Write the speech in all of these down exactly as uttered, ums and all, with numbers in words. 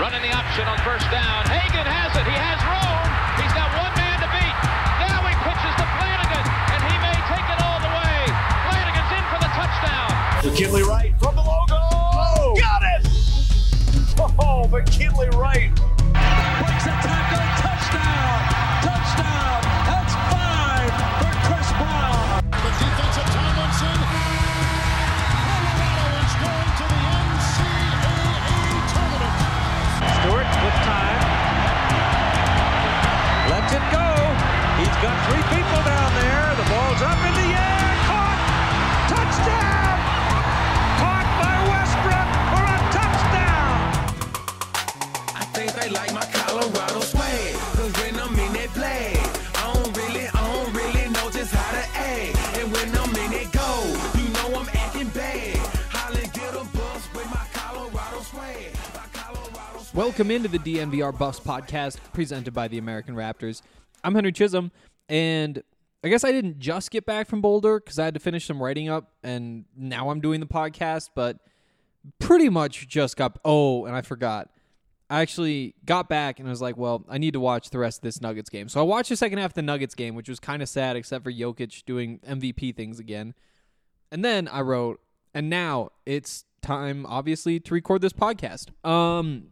Running the option on first down. Hagan has it. He has room. He's got one man to beat. Now he pitches to Flanagan, and he may take it all the way. Flanagan's in for the touchdown. McKinley Wright from the logo. Oh, got it! Oh, McKinley Wright. Breaks a tackle. Touchdown. Touchdown. That's five for Chris Brown. The defensive Tomlinson. Colorado is going to the N C double A tournament. Stewart with time. Lets it go. He's got three people down there. The ball's up in the air. Caught. Touchdown. Caught by Westbrook for a touchdown. I think they like my Colorado swag. Cause when I'm in that play, I don't really, I don't really know just how to act. And when I'm in it go, you know I'm acting bad. Holly get a bus with my Colorado swag. My Colorado swag. Welcome into the D N V R Buffs podcast presented by the American Raptors. I'm Henry Chisholm, and I guess I didn't just get back from Boulder because I had to finish some writing up, and now I'm doing the podcast, but pretty much just got, oh, and I forgot. I actually got back and I was like, well, I need to watch the rest of this Nuggets game. So I watched the second half of the Nuggets game, which was kind of sad except for Jokic doing M V P things again. And then I wrote, and now it's time, obviously, to record this podcast. Um,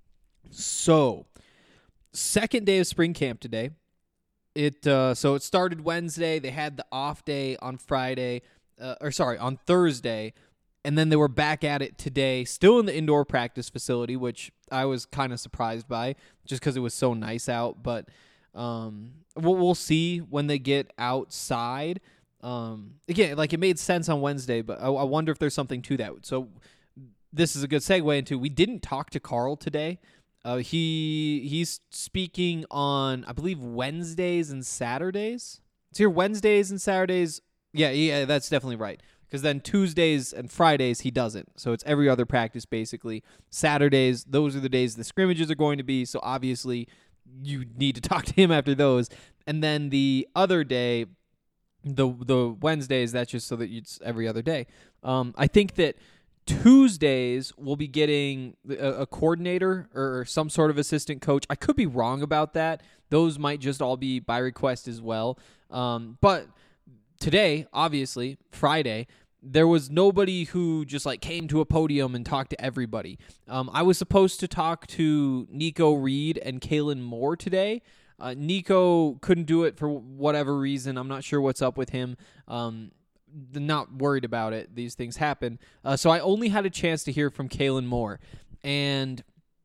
so, second day of spring camp today. It uh, so it started Wednesday. They had the off day on Friday, uh, or sorry, on Thursday, and then they were back at it today, still in the indoor practice facility, which I was kind of surprised by, just because it was so nice out. But um, we'll, we'll see when they get outside. Um, again, like it made sense on Wednesday, but I, I wonder if there's something to that. So this is a good segue into, we didn't talk to Carl today. Uh, he he's speaking on, I believe, Wednesdays and Saturdays. It's here Wednesdays and Saturdays. Yeah, yeah, that's definitely right. Because then Tuesdays and Fridays he doesn't. So it's every other practice basically. Saturdays, those are the days the scrimmages are going to be. So obviously you need to talk to him after those. And then the other day, the the Wednesdays, that's just so that it's every other day. Um, I think that Tuesdays we'll be getting a, a coordinator or some sort of assistant coach. I could be wrong about that. Those might just all be by request as well. Um, but today, obviously, Friday, there was nobody who just like came to a podium and talked to everybody. Um, I was supposed to talk to Nico Reed and Kalen Moore today. Uh, Nico couldn't do it for whatever reason. I'm not sure what's up with him. Um, not worried about it. These things happen. Uh, so I only had a chance to hear from Kalen Moore. And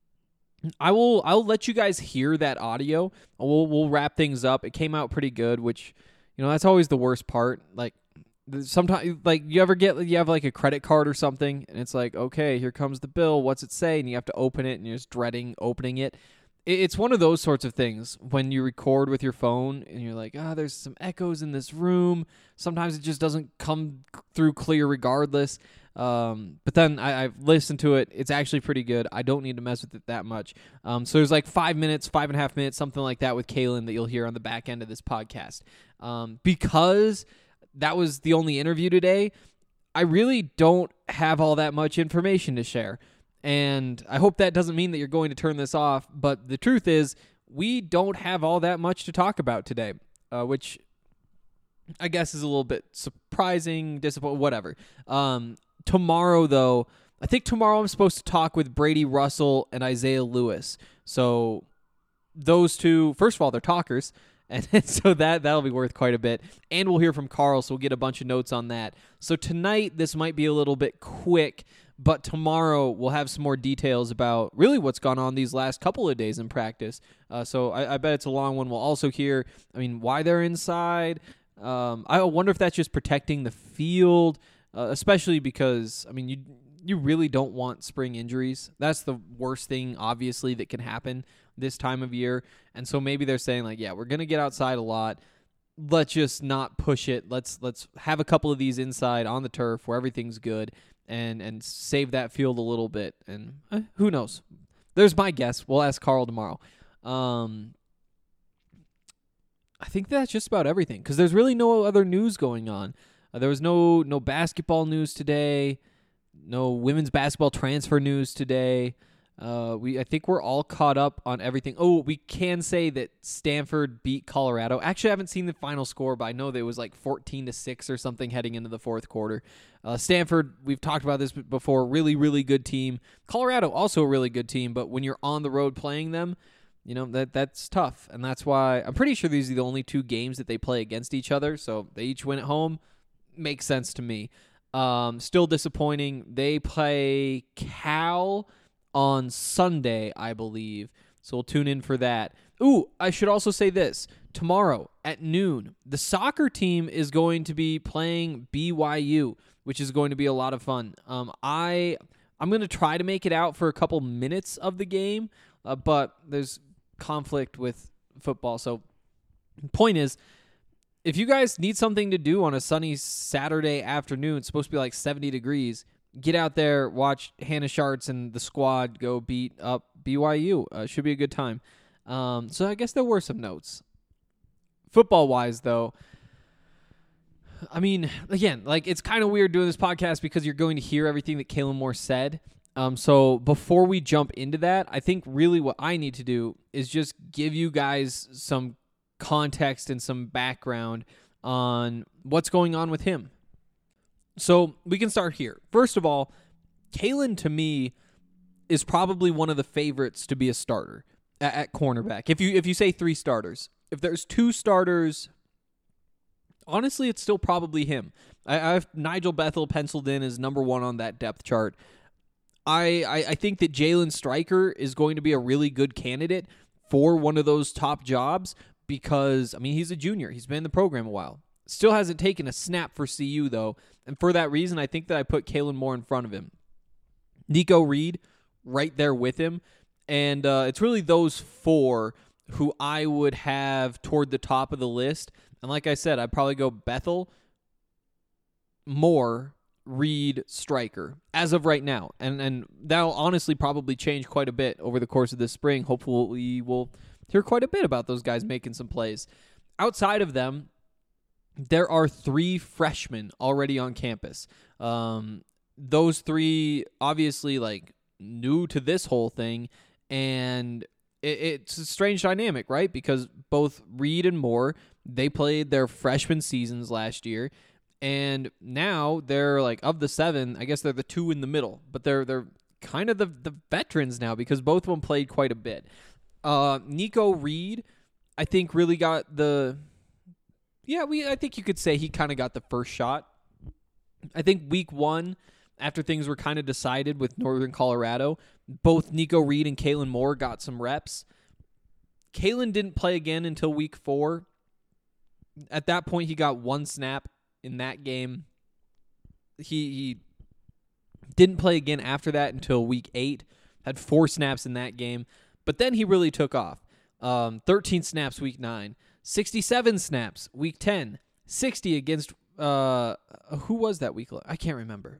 I will I'll let you guys hear that audio. We'll we'll wrap things up. It came out pretty good, which, you know, that's always the worst part. Like sometimes, like you ever get you have like a credit card or something, and it's like, okay, here comes the bill. What's it say? And you have to open it, and you're just dreading opening it. It's one of those sorts of things when you record with your phone and you're like, ah, oh, there's some echoes in this room. Sometimes it just doesn't come through clear regardless. Um, but then I, I've listened to it. It's actually pretty good. I don't need to mess with it that much. Um, so there's like five minutes, five and a half minutes, something like that with Kalen that you'll hear on the back end of this podcast. Um, because that was the only interview today, I really don't have all that much information to share. And I hope that doesn't mean that you're going to turn this off, but the truth is we don't have all that much to talk about today, uh, which I guess is a little bit surprising, disappointing, whatever. Um, tomorrow, though, I think tomorrow I'm supposed to talk with Brady Russell and Isaiah Lewis. So those two, first of all, they're talkers, and so that, that'll be worth quite a bit. And we'll hear from Carl, so we'll get a bunch of notes on that. So tonight, this might be a little bit quick, but tomorrow we'll have some more details about really what's gone on these last couple of days in practice. Uh, so I, I bet it's a long one. We'll also hear, I mean, why they're inside. Um, I wonder if that's just protecting the field, uh, especially because, I mean, you you really don't want spring injuries. That's the worst thing, obviously, that can happen this time of year. And so maybe they're saying, like, yeah, we're going to get outside a lot. Let's just not push it. Let's let's have a couple of these inside on the turf where everything's good. And and save that field a little bit. And eh, who knows? There's my guess. We'll ask Carl tomorrow. Um, I think that's just about everything because there's really no other news going on. Uh, there was no no basketball news today. No women's basketball transfer news today. Uh, we I think we're all caught up on everything. Oh, we can say that Stanford beat Colorado. Actually, I haven't seen the final score, but I know that it was like fourteen to six or something heading into the fourth quarter. Uh, Stanford, we've talked about this before, really, really good team. Colorado, also a really good team, but when you're on the road playing them, you know, that that's tough. And that's why I'm pretty sure these are the only two games that they play against each other, so they each win at home. Makes sense to me. Um, still disappointing. They play Cal on Sunday, I believe. So we'll tune in for that. Ooh, I should also say this. Tomorrow at noon, the soccer team is going to be playing B Y U, which is going to be a lot of fun. Um, I, I'm going to try to make it out for a couple minutes of the game, uh, but there's conflict with football. So point is, if you guys need something to do on a sunny Saturday afternoon, it's supposed to be like seventy degrees, get out there, watch Hannah Schartz and the squad go beat up B Y U. Uh, should be a good time. Um, so I guess there were some notes. Football-wise, though, I mean, again, like it's kind of weird doing this podcast because you're going to hear everything that Kalen Moore said. Um, so before we jump into that, I think really what I need to do is just give you guys some context and some background on what's going on with him. So we can start here. First of all, Kalen to me is probably one of the favorites to be a starter at, at cornerback. If you if you say three starters, if there's two starters, honestly, it's still probably him. I, I have Nigel Bethel penciled in as number one on that depth chart. I I, I think that Jalen Stryker is going to be a really good candidate for one of those top jobs because, I mean, he's a junior. He's been in the program a while. Still hasn't taken a snap for C U, though. And for that reason, I think that I put Kalen Moore in front of him. Nico Reed right there with him. And uh, it's really those four who I would have toward the top of the list. And like I said, I'd probably go Bethel, Moore, Reed, Stryker as of right now. And, and that'll honestly probably change quite a bit over the course of this spring. Hopefully we'll hear quite a bit about those guys making some plays. Outside of them, there are three freshmen already on campus. Um, those three, obviously, like, new to this whole thing, and it, it's a strange dynamic, right? Because both Reed and Moore, they played their freshman seasons last year, and now they're, like, of the seven, I guess they're the two in the middle, but they're they're kind of the, the veterans now because both of them played quite a bit. Uh, Nico Reed, I think, really got the... Yeah, we. I think you could say he kind of got the first shot. I think week one, after things were kind of decided with Northern Colorado, both Nico Reed and Kalen Moore got some reps. Kalen didn't play again until week four. At that point, he got one snap in that game. He, he didn't play again after that until week eight. Had four snaps in that game. But then he really took off. Um, thirteen snaps week nine. sixty-seven snaps week ten, sixty against uh who was that week? I can't remember.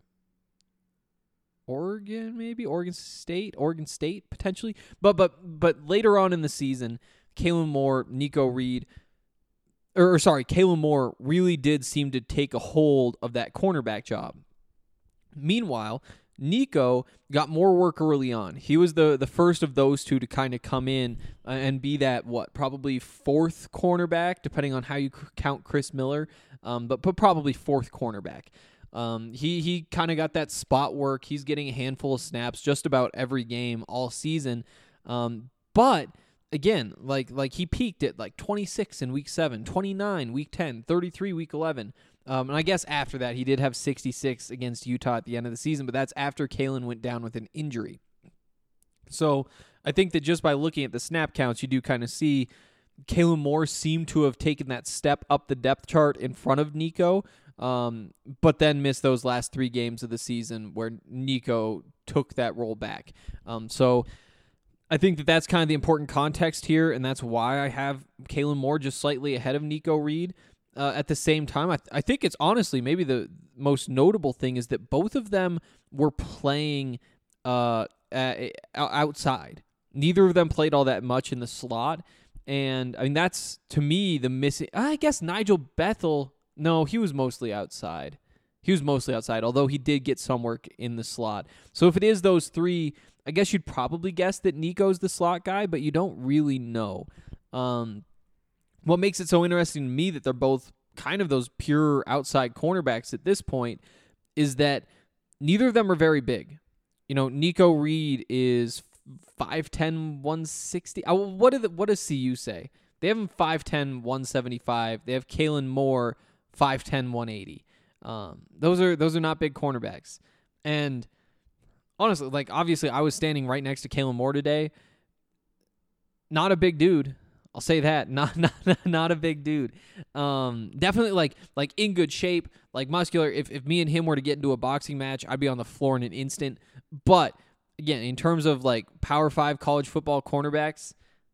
Oregon, maybe Oregon State, Oregon State potentially. But but but later on in the season, Kalen Moore, Nico Reed, or, or sorry, Kalen Moore really did seem to take a hold of that cornerback job. Meanwhile, Nico got more work early on. He was the, the first of those two to kind of come in and be that, what, probably fourth cornerback, depending on how you count Chris Miller, um, but, but probably fourth cornerback. Um, he he kind of got that spot work. He's getting a handful of snaps just about every game all season. Um, but, again, like like he peaked at like twenty-six in week seven, twenty-nine week ten, thirty-three week eleven. Um, and I guess after that, he did have sixty-six against Utah at the end of the season, but that's after Kalen went down with an injury. So I think that just by looking at the snap counts, you do kind of see Kalen Moore seemed to have taken that step up the depth chart in front of Nico, um, but then missed those last three games of the season where Nico took that role back. Um, so I think that that's kind of the important context here, and that's why I have Kalen Moore just slightly ahead of Nico Reed. Uh, at the same time, I, th- I think it's honestly maybe the most notable thing is that both of them were playing uh, uh, outside. Neither of them played all that much in the slot. And, I mean, that's, to me, the missing... I guess Nigel Bethel, no, he was mostly outside. He was mostly outside, although he did get some work in the slot. So if it is those three, I guess you'd probably guess that Nico's the slot guy, but you don't really know. Um, what makes it so interesting to me that they're both kind of those pure outside cornerbacks at this point is that neither of them are very big. You know, Nico Reed is five ten, one sixty. Uh, what, do the, what does C U say? They have him five ten, one seventy-five. They have Kalen Moore five ten, one eighty. Um, those are those are not big cornerbacks. And honestly, like obviously I was standing right next to Kalen Moore today. Not a big dude. I'll say that. Not not not a big dude. Um, definitely like like in good shape, like muscular. If if me and him were to get into a boxing match, I'd be on the floor in an instant. But again, in terms of like Power Five college football cornerbacks,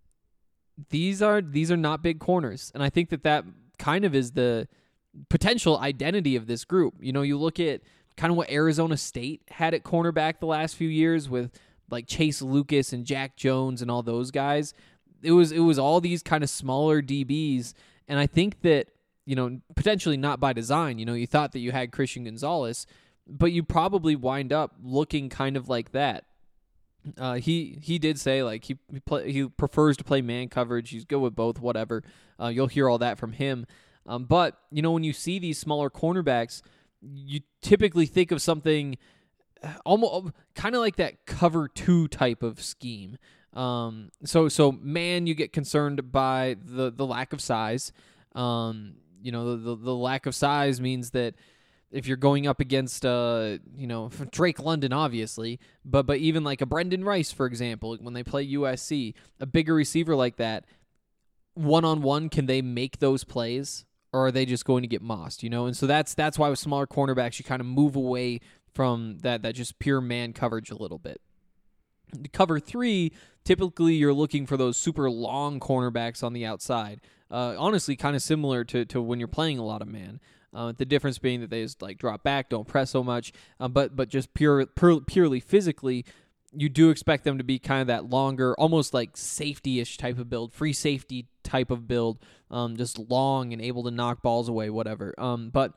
these are these are not big corners, and I think that that kind of is the potential identity of this group. You know, you look at kind of what Arizona State had at cornerback the last few years with like Chase Lucas and Jack Jones and all those guys. It was it was all these kind of smaller D Bs, and I think that, you know, potentially not by design. You know, you thought that you had Christian Gonzalez, but you probably wind up looking kind of like that. Uh, he he did say like he he, play, he prefers to play man coverage. He's good with both. Whatever. Uh, you'll hear all that from him. Um, but you know, when you see these smaller cornerbacks, you typically think of something almost kind of like that cover two type of scheme. Um, so, so man, you get concerned by the, the lack of size. Um, you know, the, the, the lack of size means that if you're going up against, uh, you know, Drake London, obviously, but, but even like a Brendan Rice, for example, when they play U S C, a bigger receiver like that, one-on-one, can they make those plays, or are they just going to get mossed, you know? And so that's, that's why with smaller cornerbacks, you kind of move away from that, that just pure man coverage a little bit. Cover three, typically you're looking for those super long cornerbacks on the outside. Uh, honestly, kind of similar to, to when you're playing a lot of man. Uh, the difference being that they just like drop back, don't press so much, uh, but but just pure, pure purely physically, you do expect them to be kind of that longer, almost like safety-ish type of build, free safety type of build, um, just long and able to knock balls away, whatever. Um, but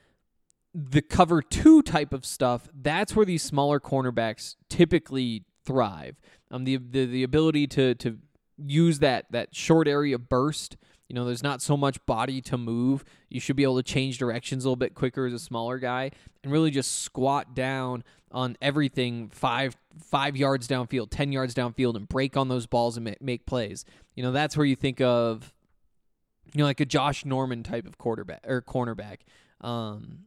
the cover two type of stuff, that's where these smaller cornerbacks typically thrive. Um, the the the ability to to use that that short area burst. You know, there's not so much body to move. You should be able to change directions a little bit quicker as a smaller guy and really just squat down on everything five five yards downfield, ten yards downfield, and break on those balls and make plays. You know, that's where you think of, you know, like a Josh Norman type of quarterback or cornerback. Um,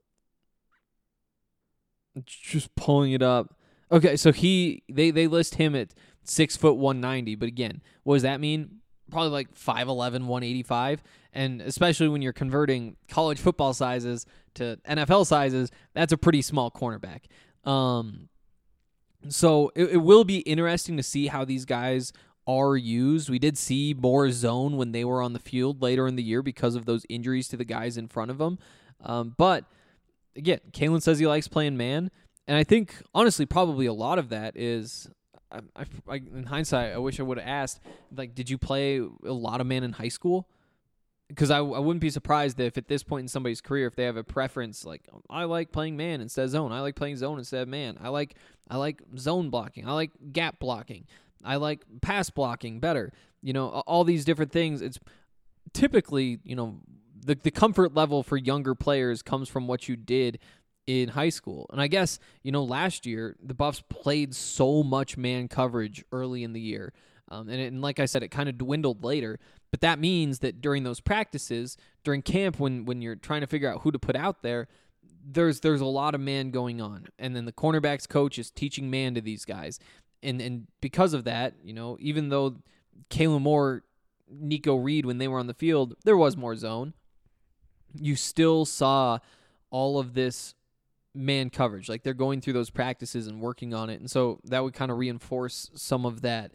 just pulling it up. Okay, so he they they list him at six foot one ninety, but again, what does that mean? Probably like five eleven, one eighty-five, and especially when you're converting college football sizes to N F L sizes, that's a pretty small cornerback. Um, so it, it will be interesting to see how these guys are used. We did see more zone when they were on the field later in the year because of those injuries to the guys in front of them. Um, but again, Kalen says he likes playing man, and I think honestly probably a lot of that is. I, I, I, in hindsight, I wish I would have asked, like, did you play a lot of man in high school? Because I, I wouldn't be surprised if at this point in somebody's career, if they have a preference, like, I like playing man instead of zone. I like playing zone instead of man. I like I like zone blocking. I like gap blocking. I like pass blocking better. You know, all these different things. It's typically, you know, the the comfort level for younger players comes from what you did in high school. And I guess, you know, last year, the Buffs played so much man coverage early in the year. Um, and, it, and like I said, it kind of dwindled later. But that means that during those practices, during camp, when when you're trying to figure out who to put out there, there's there's a lot of man going on. And then the cornerbacks coach is teaching man to these guys. And and because of that, you know, even though Kalen Moore, Nico Reed, when they were on the field, there was more zone, you still saw all of this man coverage. Like, they're going through those practices and working on it. And so that would kind of reinforce some of that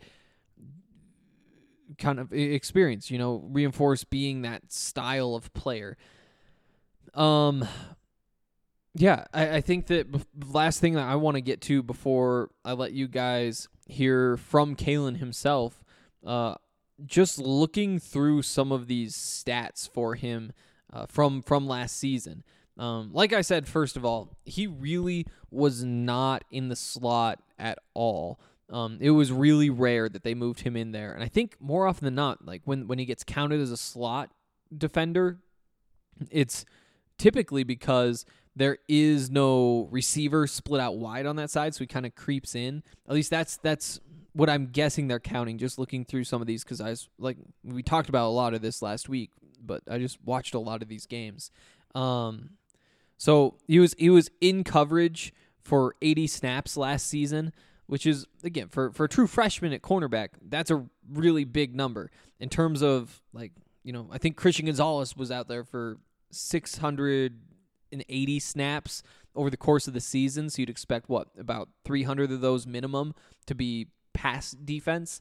kind of experience, you know, reinforce being that style of player. Um, yeah, I, I think that b- last thing that I want to get to before I let you guys hear from Kalen himself, uh, just looking through some of these stats for him uh, from from last season. Um, like I said, first of all, he really was not in the slot at all Um, it was really rare that they moved him in there. And I think more often than not, like when, when he gets counted as a slot defender, it's typically because there is no receiver split out wide on that side, so he kind of creeps in. At least that's that's what I'm guessing they're counting, just looking through some of these, because I was like, we talked about a lot of this last week, but I just watched a lot of these games. Um, so he was he was in coverage for eighty snaps last season, which is, again, for, for a true freshman at cornerback, that's a really big number. In terms of, like, you know, I think Christian Gonzalez was out there for six hundred eighty snaps over the course of the season, so you'd expect, what, about three hundred of those minimum to be pass defense,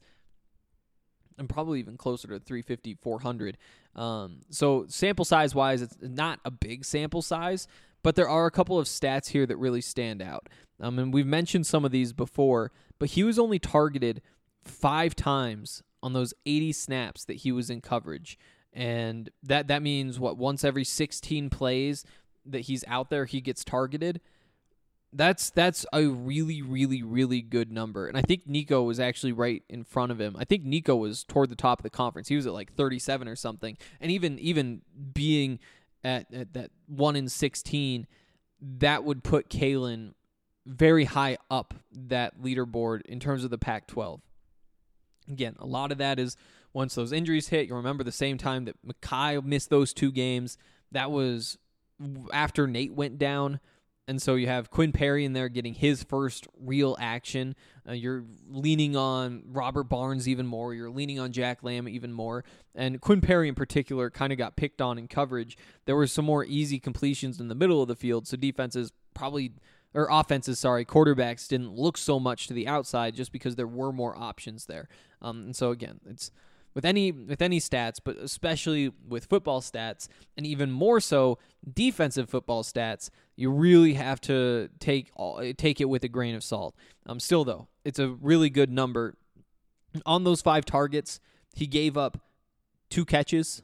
and probably even closer to three fifty, four hundred. Um, so sample size-wise, it's not a big sample size, but there are a couple of stats here that really stand out. Um, and we've mentioned some of these before, but he was only targeted five times on those eighty snaps that he was in coverage. And that, that means, what, once every sixteen plays that he's out there, he gets targeted. That's that's a really, really, really good number. And I think Nico was actually right in front of him. I think Nico was toward the top of the conference. He was at like thirty-seven or something. And even even being at, at that one in sixteen, that would put Kalen very high up that leaderboard in terms of the Pac twelve. Again, a lot of that is once those injuries hit. You remember the same time that Mekhi missed those two games. That was after Nate went down. And so you have Quinn Perry in there getting his first real action. Uh, you're leaning on Robert Barnes even more. You're leaning on Jack Lamb even more. And Quinn Perry in particular kind of got picked on in coverage. There were some more easy completions in the middle of the field, so defenses probably, or offenses, sorry, quarterbacks didn't look so much to the outside just because there were more options there. Um, and so again, it's with any with any stats, but especially with football stats, and even more so defensive football stats, you really have to take all, take it with a grain of salt. Um, still, though, it's a really good number. On those five targets, he gave up two catches.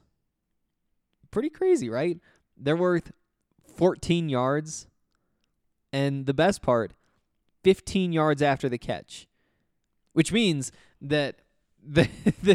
Pretty crazy, right? They're worth fourteen yards, and the best part, fifteen yards after the catch, which means that the the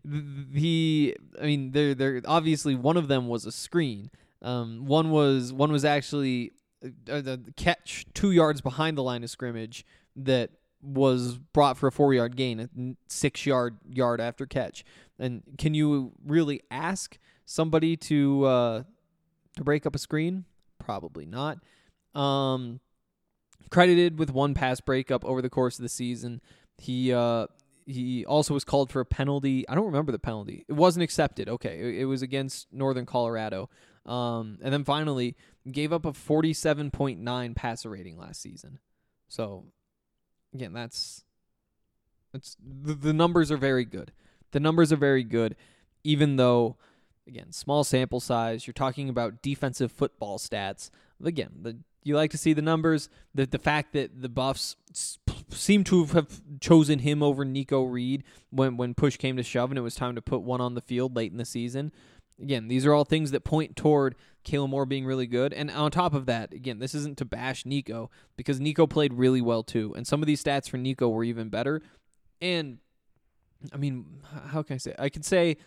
the I mean, they're they're obviously one of them was a screen. Um, one was one was actually uh, the catch two yards behind the line of scrimmage that was brought for a four yard gain, a six yard yard after catch. And can you really ask somebody to uh, to break up a screen? Probably not. Um, credited with one pass breakup over the course of the season. He uh, he also was called for a penalty. I don't remember the penalty. It wasn't accepted. Okay, it, it was against Northern Colorado. Um, and then finally gave up a forty-seven point nine passer rating last season. So again, that's that's the, the numbers are very good. The numbers are very good, even though, again, small sample size. You're talking about defensive football stats. Again, the you like to see the numbers. The the fact that the Buffs seem to have chosen him over Nico Reed when, when push came to shove and it was time to put one on the field late in the season. Again, these are all things that point toward Kalen Moore being really good. And on top of that, again, this isn't to bash Nico, because Nico played really well too. And some of these stats for Nico were even better. And, I mean, how can I say? I could say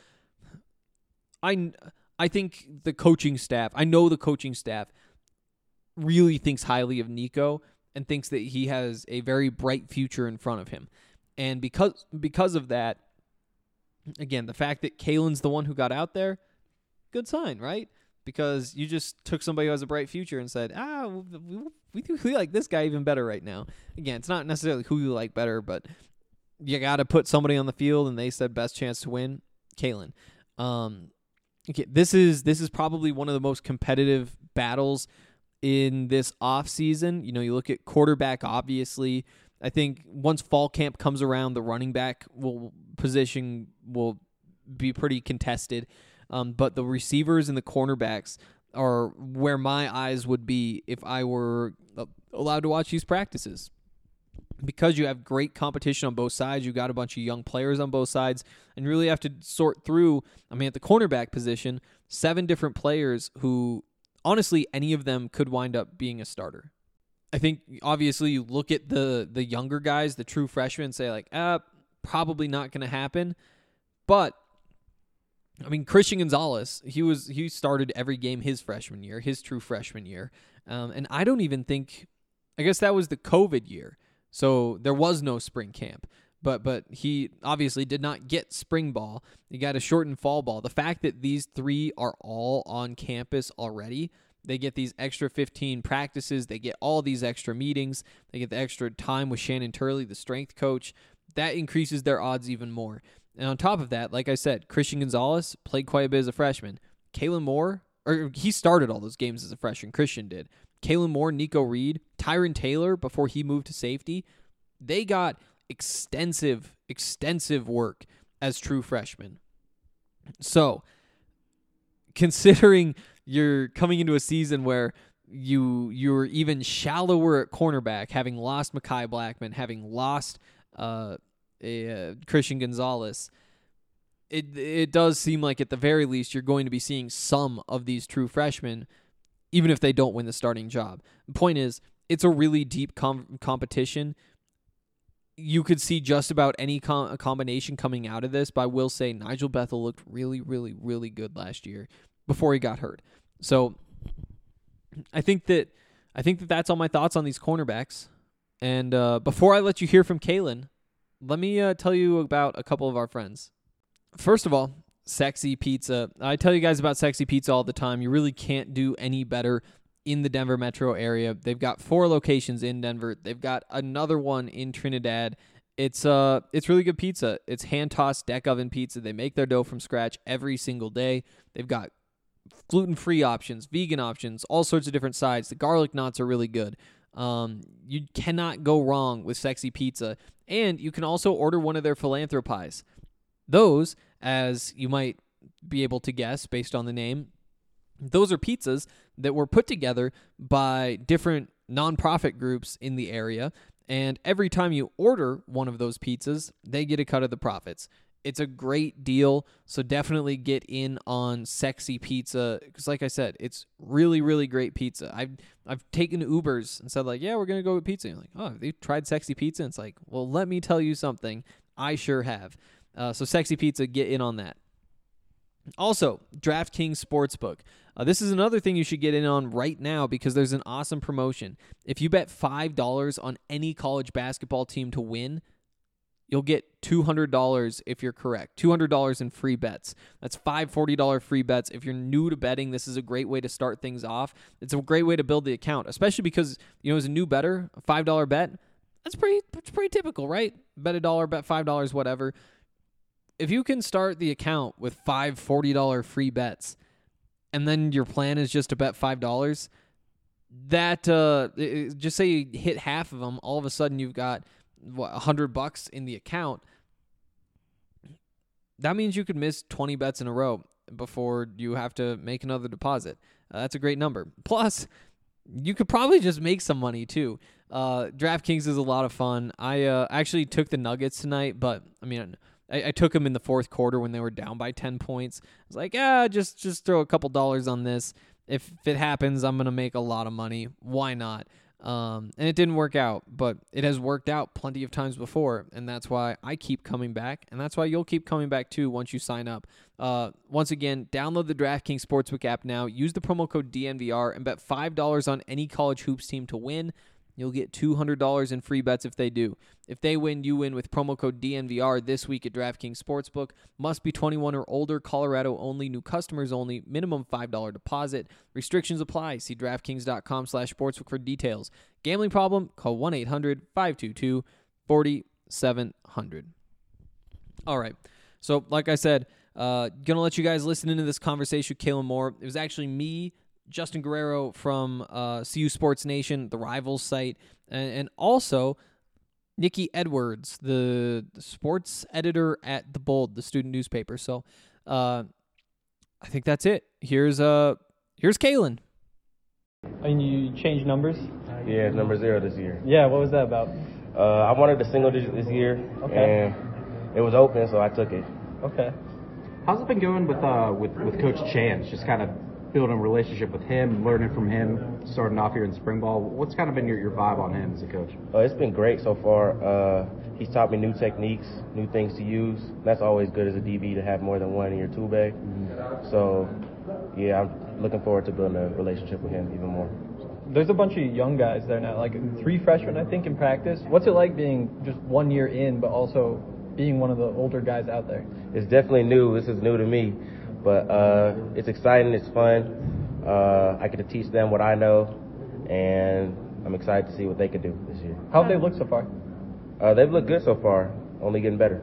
I, I think the coaching staff, I know the coaching staff really thinks highly of Nico and thinks that he has a very bright future in front of him. And because because of that, again, the fact that Kalen's the one who got out there, good sign, right? Because you just took somebody who has a bright future and said, ah, we, we, we like this guy even better right now. Again, it's not necessarily who you like better, but you got to put somebody on the field, and they said best chance to win, Kalen. Um, okay, this is this is probably one of the most competitive battles in this offseason. You know, you look at quarterback, obviously. I think once fall camp comes around, the running back will position will be pretty contested. Um, but the receivers and the cornerbacks are where my eyes would be if I were allowed to watch these practices. Because you have great competition on both sides, you got a bunch of young players on both sides, and you really have to sort through, I mean, at the cornerback position, seven different players who, honestly, any of them could wind up being a starter. I think obviously you look at the the younger guys, the true freshmen, and say like, uh, probably not going to happen. But I mean, Christian Gonzalez, he was he started every game his freshman year, his true freshman year, um, and I don't even think, I guess that was the COVID year, so there was no spring camp. But but he obviously did not get spring ball. He got a shortened fall ball. The fact that these three are all on campus already, they get these extra fifteen practices, they get all these extra meetings, they get the extra time with Shannon Turley, the strength coach. That increases their odds even more. And on top of that, like I said, Christian Gonzalez played quite a bit as a freshman. Kalen Moore, or he started all those games as a freshman. Christian did. Kalen Moore, Nico Reed, Tyron Taylor, before he moved to safety, they got extensive, extensive work as true freshmen. So, considering you're coming into a season where you you're even shallower at cornerback, having lost Mekhi Blackman, having lost uh, a, uh, Christian Gonzalez, it it does seem like at the very least you're going to be seeing some of these true freshmen, even if they don't win the starting job. The point is, it's a really deep com- competition. You could see just about any com- combination coming out of this, but I will say Nigel Bethel looked really, really, really good last year before he got hurt. So I think that I think that that's all my thoughts on these cornerbacks. And uh, before I let you hear from Kalen, let me uh, tell you about a couple of our friends. First of all, Sexy Pizza. I tell you guys about Sexy Pizza all the time. You really can't do any better in the Denver metro area. They've got four locations in Denver. They've got another one in Trinidad. It's uh, it's really good pizza. It's hand-tossed deck oven pizza. They make their dough from scratch every single day. They've got gluten-free options, vegan options, all sorts of different sides. The garlic knots are really good. Um, you cannot go wrong with Sexy Pizza. And you can also order one of their philanthropies. Those, as you might be able to guess based on the name, those are pizzas that were put together by different nonprofit groups in the area. And every time you order one of those pizzas, they get a cut of the profits. It's a great deal, so definitely get in on Sexy Pizza, because like I said, it's really, really great pizza. I've I've taken Ubers and said, like, yeah, we're going to go with pizza. And you're like, oh, have you tried Sexy Pizza? And it's like, well, let me tell you something. I sure have. Uh, so Sexy Pizza, get in on that. Also, DraftKings Sportsbook. Uh, this is another thing you should get in on right now because there's an awesome promotion. If you bet five dollars on any college basketball team to win, you'll get two hundred dollars if you're correct. two hundred dollars in free bets. That's five forty dollars free bets. If you're new to betting, this is a great way to start things off. It's a great way to build the account, especially because, you know, as a new bettor, a five dollars bet, that's pretty, that's pretty typical, right? Bet a dollar, bet five dollars, whatever. If you can start the account with five forty dollars free bets, and then your plan is just to bet five dollars, that, uh, it, just say you hit half of them, all of a sudden you've got, what, one hundred bucks in the account. That means you could miss twenty bets in a row before you have to make another deposit. Uh, that's a great number. Plus, you could probably just make some money too. Uh, DraftKings is a lot of fun. I uh, actually took the Nuggets tonight, but I mean, I, I took them in the fourth quarter when they were down by ten points. I was like, yeah, just just throw a couple dollars on this. If it happens, I'm gonna make a lot of money. Why not? Um, and it didn't work out, but it has worked out plenty of times before, and that's why I keep coming back, and that's why you'll keep coming back too once you sign up. Uh, once again, download the DraftKings Sportsbook app now, use the promo code D N V R, and bet five dollars on any college hoops team to win. You'll get two hundred dollars in free bets if they do. If they win, you win with promo code D N V R this week at DraftKings Sportsbook. Must be twenty-one or older, Colorado only, new customers only, minimum five dollars deposit. Restrictions apply. See DraftKings.com slash sportsbook for details. Gambling problem? Call one eight hundred five two two four seven zero zero. All right. So, like I said, uh, going to let you guys listen into this conversation with Kalen Moore. It was actually me, Justin Guerrero from uh, C U Sports Nation, the Rivals site, and, and also Nikki Edwards, the, the sports editor at The Bold, the student newspaper. So uh, I think that's it. Here's uh here's Kalen. And you changed numbers? Yeah, it's number zero this year. Yeah, what was that about? Uh, I wanted a single digit this year, Okay. and it was open, so I took it. Okay. How's it been going with uh with, with Coach Chance? Just kind of building a relationship with him, learning from him, starting off here in spring ball. What's kind of been your, your vibe on him as a coach? Uh, it's been great so far. Uh, he's taught me new techniques, new things to use. That's always good as a D B to have more than one in your tool bag. Mm-hmm. So, yeah, I'm looking forward to building a relationship with him even more. There's a bunch of young guys there now, like three freshmen, I think, in practice. What's it like being just one year in, but also being one of the older guys out there? It's definitely new. This is new to me, but uh, it's exciting. It's fun. Uh, I get to teach them what I know, and I'm excited to see what they can do this year. How have they looked so far? Uh, they've looked good so far, only getting better.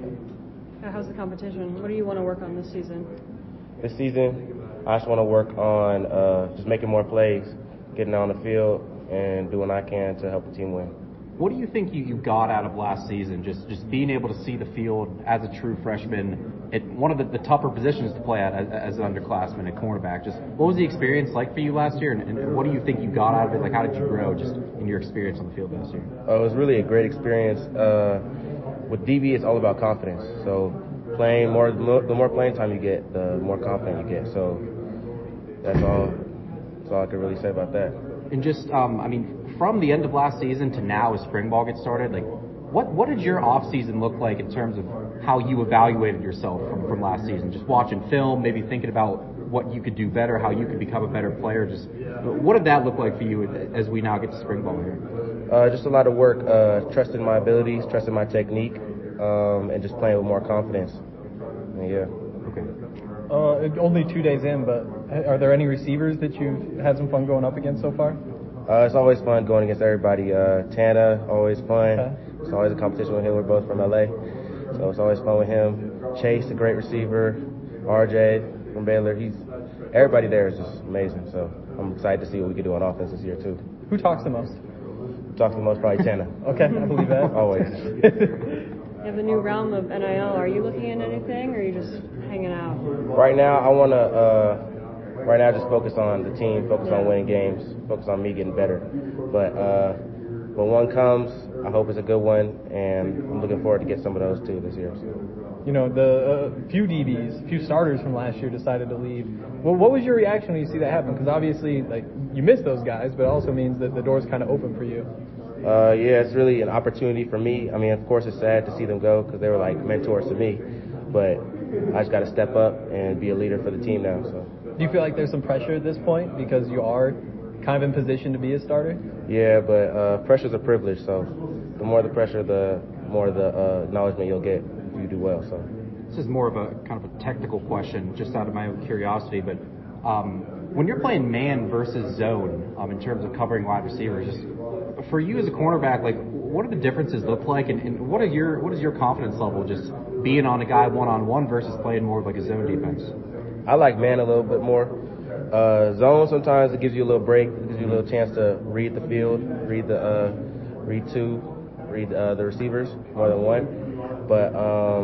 Uh, How's the competition? What do you want to work on this season? This season, I just want to work on uh, just making more plays, getting on the field, and doing what I can to help the team win. What do you think you, you got out of last season, just just being able to see the field as a true freshman at one of the, the tougher positions to play at as, as an underclassman at cornerback? Just what was the experience like for you last year, and, and what do you think you got out of it? Like, how did you grow just in your experience on the field last year? Uh, it was really a great experience. Uh, with D B, it's all about confidence. So playing more, the more playing time you get, the more confident you get. So that's all. That's all I can really say about that. And just, um, I mean, from the end of last season to now as spring ball gets started, like, what what did your off season look like in terms of how you evaluated yourself from, from last season? Just watching film, maybe thinking about what you could do better, how you could become a better player. Just what did that look like for you as we now get to spring ball here? Uh, just a lot of work, uh, trusting my abilities, trusting my technique, um, and just playing with more confidence. And yeah. Okay. Uh, only two days in, but are there any receivers that you've had some fun going up against so far? Uh, it's always fun going against everybody. Uh, Tana, always fun. Okay. It's always a competition with him. We're both from L A, so it's always fun with him. Chase, a great receiver. R J from Baylor. He's everybody there is just amazing. So I'm excited to see what we can do on offense this year too. Who talks the most? Talks the most probably Tana. Okay, I believe that. Always. You have the new realm of N I L. Are you looking at anything, or are you just hanging out? Right now, I want to. Uh, right now, just focus on the team, focus on winning games, focus on me getting better. But uh, when one comes, I hope it's a good one, and I'm looking forward to get some of those too this year. So. You know, the uh, few D Bs, few starters from last year decided to leave. Well, what was your reaction when you see that happen? Because obviously, like, you miss those guys, but it also means that the door's kind of open for you. Uh, yeah, it's really an opportunity for me. I mean, of course, it's sad to see them go because they were like mentors to me, but I just got to step up and be a leader for the team now. So. Do you feel like there's some pressure at this point because you are kind of in position to be a starter? Yeah, but uh, pressure's a privilege. So the more the pressure, the more the uh, acknowledgement you'll get if you do well. So this is more of a kind of a technical question, just out of my own curiosity, but um, when you're playing man versus zone, um, in terms of covering wide receivers, just for you as a cornerback, like, what do the differences look like, and, and what are your what is your confidence level just being on a guy one on one versus playing more of like a zone defense? I like man a little bit more. Uh, zone sometimes it gives you a little break, it gives you a little chance to read the field, read the uh, read two, read uh, the receivers more than one. But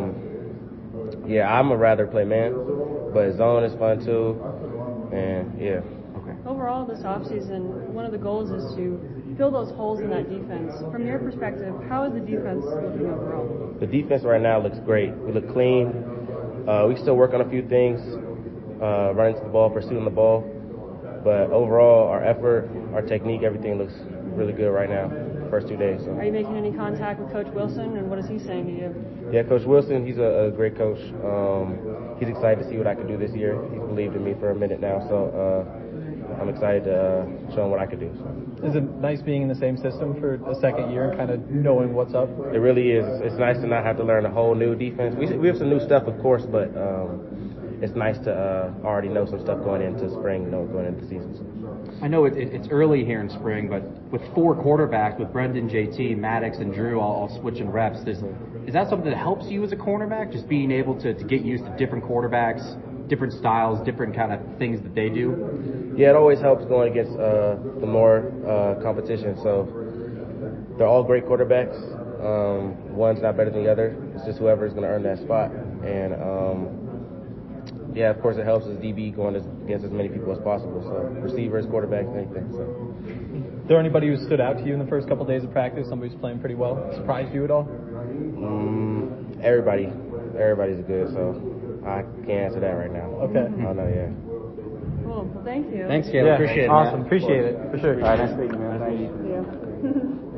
um, yeah, I'm a rather play man, but zone is fun too, and yeah. Okay. Overall, this offseason, one of the goals is to fill those holes in that defense. From your perspective, how is the defense looking overall? The defense right now looks great. We look clean. Uh, we still work on a few things, uh, running to the ball, pursuing the ball. But overall, our effort, our technique, everything looks really good right now, the first two days. So. Are you making any contact with Coach Wilson, and what is he saying to you? Yeah, Coach Wilson, he's a, a great coach. Um, he's excited to see what I can do this year. He's believed in me for a minute now, so uh, I'm excited to uh, show him what I can do. So. Is it nice being in the same system for a second year and kind of knowing what's up? It really is. It's nice to not have to learn a whole new defense. We we have some new stuff, of course, but um, it's nice to uh, already know some stuff going into spring, you know, going into the season. So. I know it, it, it's early here in spring, but with four quarterbacks, with Brendan, J T, Maddox, and Drew all, all switching reps, is, is that something that helps you as a cornerback, just being able to, to get used to different quarterbacks, different styles, different kind of things that they do? Yeah, it always helps going against uh, the more uh, competition. So they're all great quarterbacks. Um, one's not better than the other. It's just whoever is going to earn that spot. And um, yeah, of course, it helps as D B going as, against as many people as possible. So receivers, quarterbacks, anything. So. Is there anybody who stood out to you in the first couple of days of practice? Somebody who's playing pretty well, surprised you at all? Mm, everybody, everybody's good. So I can't answer that right now. Okay. I know, yeah. Cool. Well, thank you. Thanks, Caleb. Yeah, Appreciate it. awesome. man. Appreciate it for sure. All right, nice meeting you, man. Thank you. Yeah.